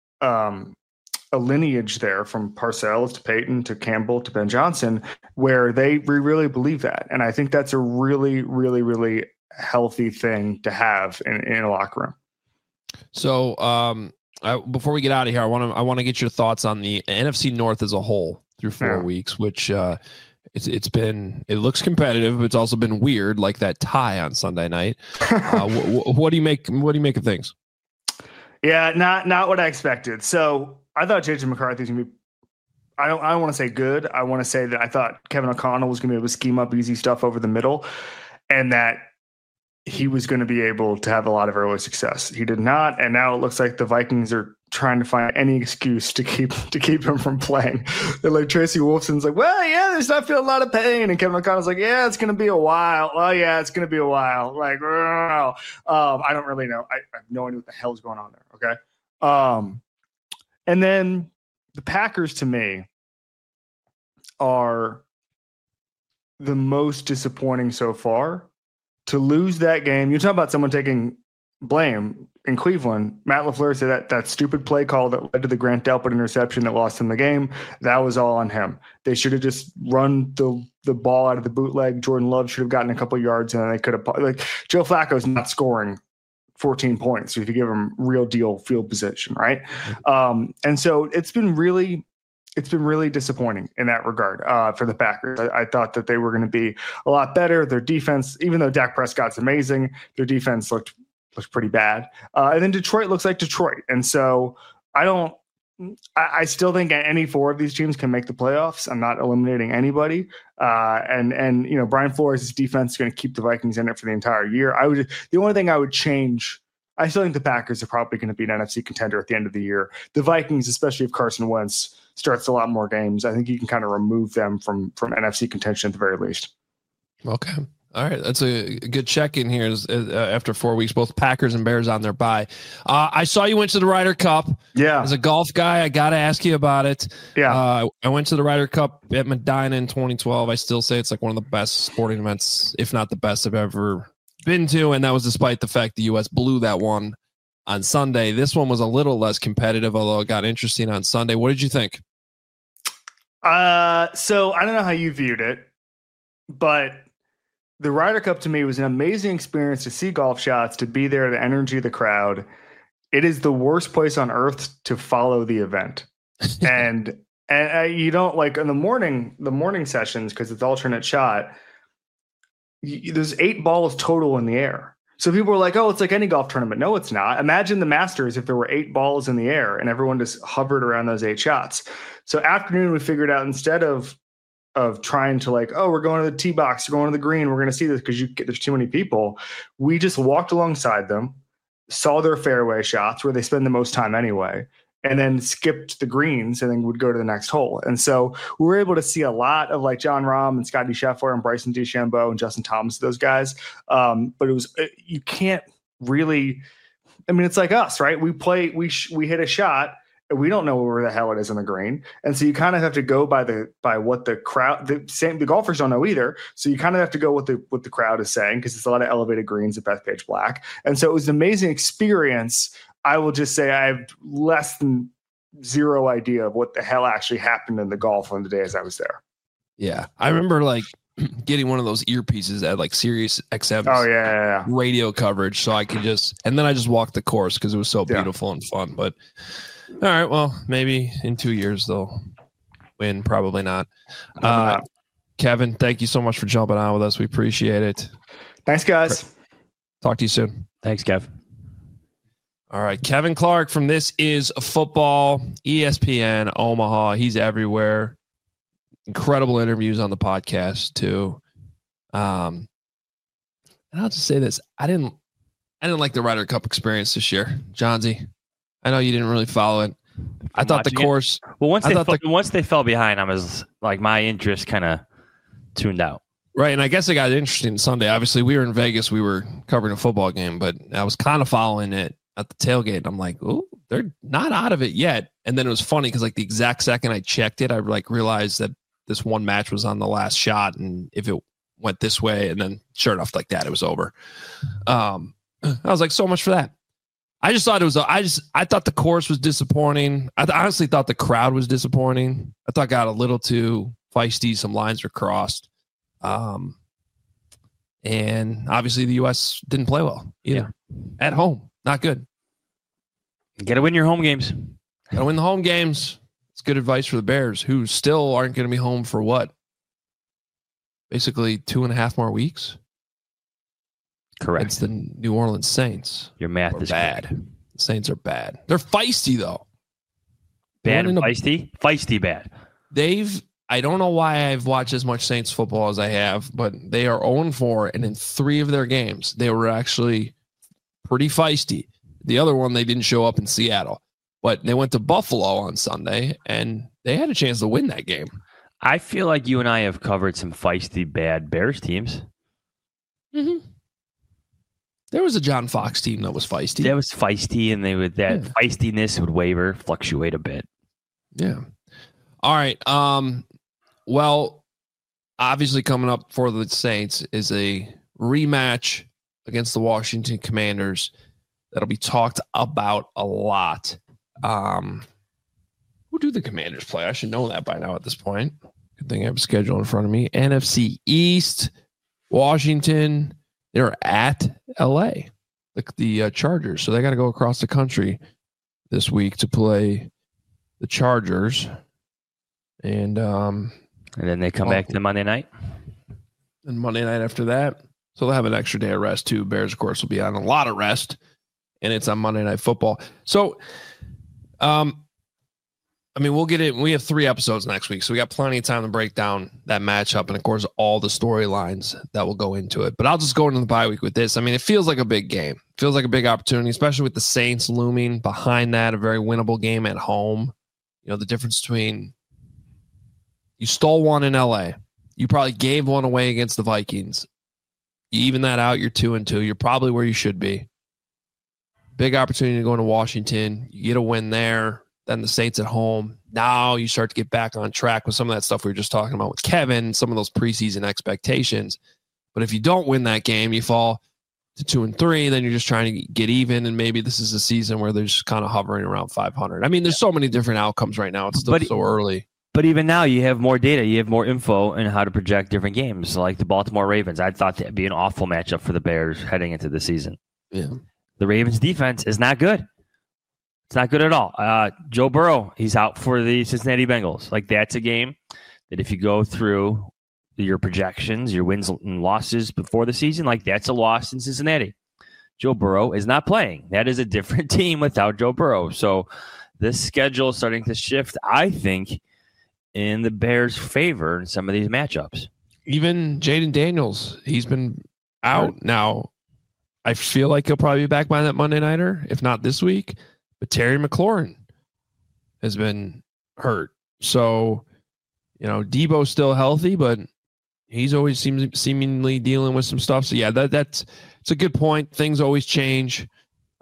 lineage there from Parcells to Payton to Campbell to Ben Johnson where we really believe that. And I think that's a really, really, really healthy thing to have in a locker room. So before we get out of here, I want to get your thoughts on the NFC North as a whole through 4 weeks, which it looks competitive, but it's also been weird, like that tie on Sunday night. What do you make of things? Yeah, not what I expected. So I thought JJ McCarthy's gonna be, I don't want to say good. I want to say that I thought Kevin O'Connell was gonna be able to scheme up easy stuff over the middle, and that he was going to be able to have a lot of early success. He did not, and now it looks like the Vikings are trying to find any excuse to keep him from playing. They're like, Tracy Wolfson's like, well, yeah, there's not feeling a lot of pain, and Kevin O'Connell's like, yeah, it's going to be a while. Oh yeah, it's going to be a while. Like, I don't really know. I have no idea what the hell's going on there. Okay, and then the Packers to me are the most disappointing so far. To lose that game, you talk about someone taking blame in Cleveland. Matt LaFleur said that stupid play call that led to the Grant Delpit interception that lost him the game, that was all on him. They should have just run the ball out of the bootleg. Jordan Love should have gotten a couple yards, and then they could have, like, Joe Flacco's not scoring 14 points if you give him real deal field position, right? And so it's been really disappointing in that regard for the Packers. I thought that they were going to be a lot better. Their defense, even though Dak Prescott's amazing, their defense looked pretty bad. And then Detroit looks like Detroit. And so I still think any four of these teams can make the playoffs. I'm not eliminating anybody. And you know, Brian Flores' defense is going to keep the Vikings in it for the entire year. The only thing I would change, I still think the Packers are probably going to be an NFC contender at the end of the year. The Vikings, especially if Carson Wentz starts a lot more games, I think you can kind of remove them from NFC contention at the very least. Okay. All right. That's a good check in here after 4 weeks, both Packers and Bears on their bye. I saw you went to the Ryder Cup. Yeah. As a golf guy, I got to ask you about it. Yeah. I went to the Ryder Cup at Medina in 2012. I still say it's like one of the best sporting events, if not the best I've ever been to. And that was despite the fact the U.S. blew that one on Sunday. This one was a little less competitive, although it got interesting on Sunday. What did you think? So I don't know how you viewed it, but the Ryder Cup to me was an amazing experience to see golf shots, to be there, the energy of the crowd. It is the worst place on earth to follow the event. and you don't, like, in the morning sessions, because it's alternate shot, there's 8 balls total in the air. So people are like, oh, it's like any golf tournament. No, it's not. Imagine the Masters if there were 8 balls in the air and everyone just hovered around those 8 shots. So afternoon, we figured out, instead of trying to, like, oh, we're going to the tee box, we're going to the green, we're going to see this because there's too many people, we just walked alongside them, saw their fairway shots where they spend the most time anyway, and then skipped the greens and then would go to the next hole. And so we were able to see a lot of, like, John Rahm and Scotty Scheffler and Bryson DeChambeau and Justin Thomas, those guys. But you can't really, I mean, it's like us, right? We hit a shot We don't know where the hell it is on the green. And so you kind of have to go by what the crowd, the golfers don't know either. So you kind of have to go what the crowd is saying, because it's a lot of elevated greens at Bethpage Black. And so it was an amazing experience. I will just say I have less than zero idea of what the hell actually happened in the golf on the day as I was there. Yeah. I remember like getting one of those earpieces at like Sirius XM radio coverage. So I could and then I just walked the course because it was so beautiful and fun. But all right, well, maybe in 2 years they'll win. Probably not. Kevin, thank you so much for jumping on with us. We appreciate it. Thanks, guys. Talk to you soon. Thanks, Kev. All right, Kevin Clark from This Is Football, ESPN, Omaha. He's everywhere. Incredible interviews on the podcast too. And I'll just say this: I didn't like the Ryder Cup experience this year, Johnsy. I know you didn't really follow it. I thought the course. Well, once they fell behind, I was like, my interest kind of tuned out. Right, and I guess it got interesting Sunday. Obviously, we were in Vegas. We were covering a football game, but I was kind of following it at the tailgate. I'm like, oh, they're not out of it yet. And then it was funny because like the exact second I checked it, I like realized that this one match was on the last shot, and if it went this way, and then sure enough, like that, it was over. I was like, so much for that. I just thought it was. I thought the course was disappointing. I honestly thought the crowd was disappointing. I thought it got a little too feisty. Some lines were crossed, and obviously the U.S. didn't play well either. At home, not good. You got to win your home games. Got to win the home games. It's good advice for the Bears, who still aren't going to be home for what? Basically 2.5 more weeks. Correct. It's the New Orleans Saints. Your math is bad. Correct. The Saints are bad. They're feisty though. Bad and feisty? Feisty bad. I don't know why I've watched as much Saints football as I have, but they are 0-4, and in 3 of their games, they were actually pretty feisty. The other one, they didn't show up in Seattle, but they went to Buffalo on Sunday, and they had a chance to win that game. I feel like you and I have covered some feisty, bad Bears teams. Mm-hmm. There was a John Fox team that was feisty. That was feisty, and feistiness would fluctuate a bit. Yeah. All right. Well, obviously coming up for the Saints is a rematch against the Washington Commanders that'll be talked about a lot. Who do the Commanders play? I should know that by now at this point. Good thing I have a schedule in front of me. NFC East, Washington. They're at LA, the Chargers. So they got to go across the country this week to play the Chargers. And then they come back to Monday night. And Monday night after that. So they'll have an extra day of rest too. Bears, of course, will be on a lot of rest. And it's on Monday Night Football. So, we'll get it. We have 3 episodes next week, so we got plenty of time to break down that matchup and, of course, all the storylines that will go into it. But I'll just go into the bye week with this. It feels like a big game. It feels like a big opportunity, especially with the Saints looming behind that, a very winnable game at home. You know, the difference between you stole one in LA. You probably gave one away against the Vikings. You even that out, you're 2-2. You're probably where you should be. Big opportunity to go into Washington. You get a win there. Then the Saints at home. Now you start to get back on track with some of that stuff we were just talking about with Kevin, some of those preseason expectations. But if you don't win that game, you fall to 2-3. Then you're just trying to get even. And maybe this is a season where they're just kind of hovering around 500. There's so many different outcomes right now. It's still so early. But even now, you have more data. You have more info on how to project different games, like the Baltimore Ravens. I thought that'd be an awful matchup for the Bears heading into the season. Yeah. The Ravens defense is not good. It's not good at all. Joe Burrow, he's out for the Cincinnati Bengals. Like, that's a game that if you go through your projections, your wins and losses before the season, like, that's a loss in Cincinnati. Joe Burrow is not playing. That is a different team without Joe Burrow. So this schedule is starting to shift, I think, in the Bears' favor in some of these matchups. Even Jaden Daniels, he's been out now. I feel like he'll probably be back by that Monday nighter, if not this week. But Terry McLaurin has been hurt. So, Debo's still healthy, but he's always seemingly dealing with some stuff. So, yeah, it's a good point. Things always change.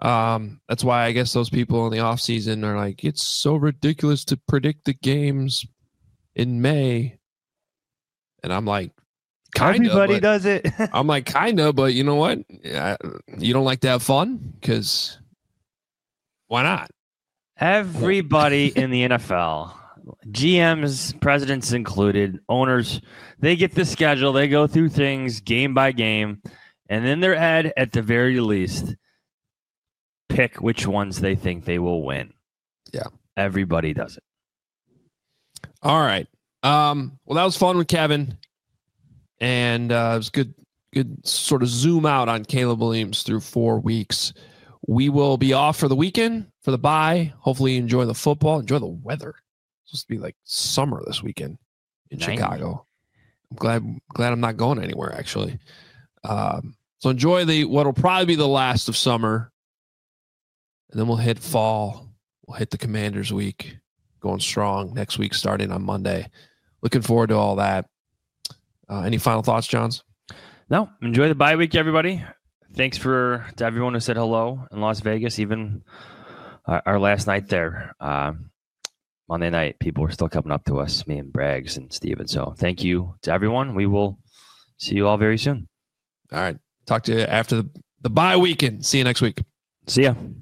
That's why I guess those people in the offseason are like, it's so ridiculous to predict the games in May. And I'm like, everybody does it. I'm like, kind of, but you know what? You don't like to have fun? Because why not? Everybody in the NFL, GMs, presidents included, owners, they get the schedule. They go through things game by game. And in their head, at the very least, pick which ones they think they will win. Yeah. Everybody does it. All right. Well, that was fun with Kevin. And it was good sort of zoom out on Caleb Williams through 4 weeks. We will be off for the weekend for the bye. Hopefully you enjoy the football. Enjoy the weather. It's supposed to be like summer this weekend in Chicago. I'm glad I'm not going anywhere, actually. So enjoy what will probably be the last of summer. And then we'll hit fall. We'll hit the Commanders week. Going strong next week, starting on Monday. Looking forward to all that. Any final thoughts, Johns? No. Enjoy the bye week, everybody. Thanks to everyone who said hello in Las Vegas, even our last night there. Monday night, people were still coming up to us, me and Braggs and Steven. So thank you to everyone. We will see you all very soon. All right. Talk to you after the bye weekend. See you next week. See ya.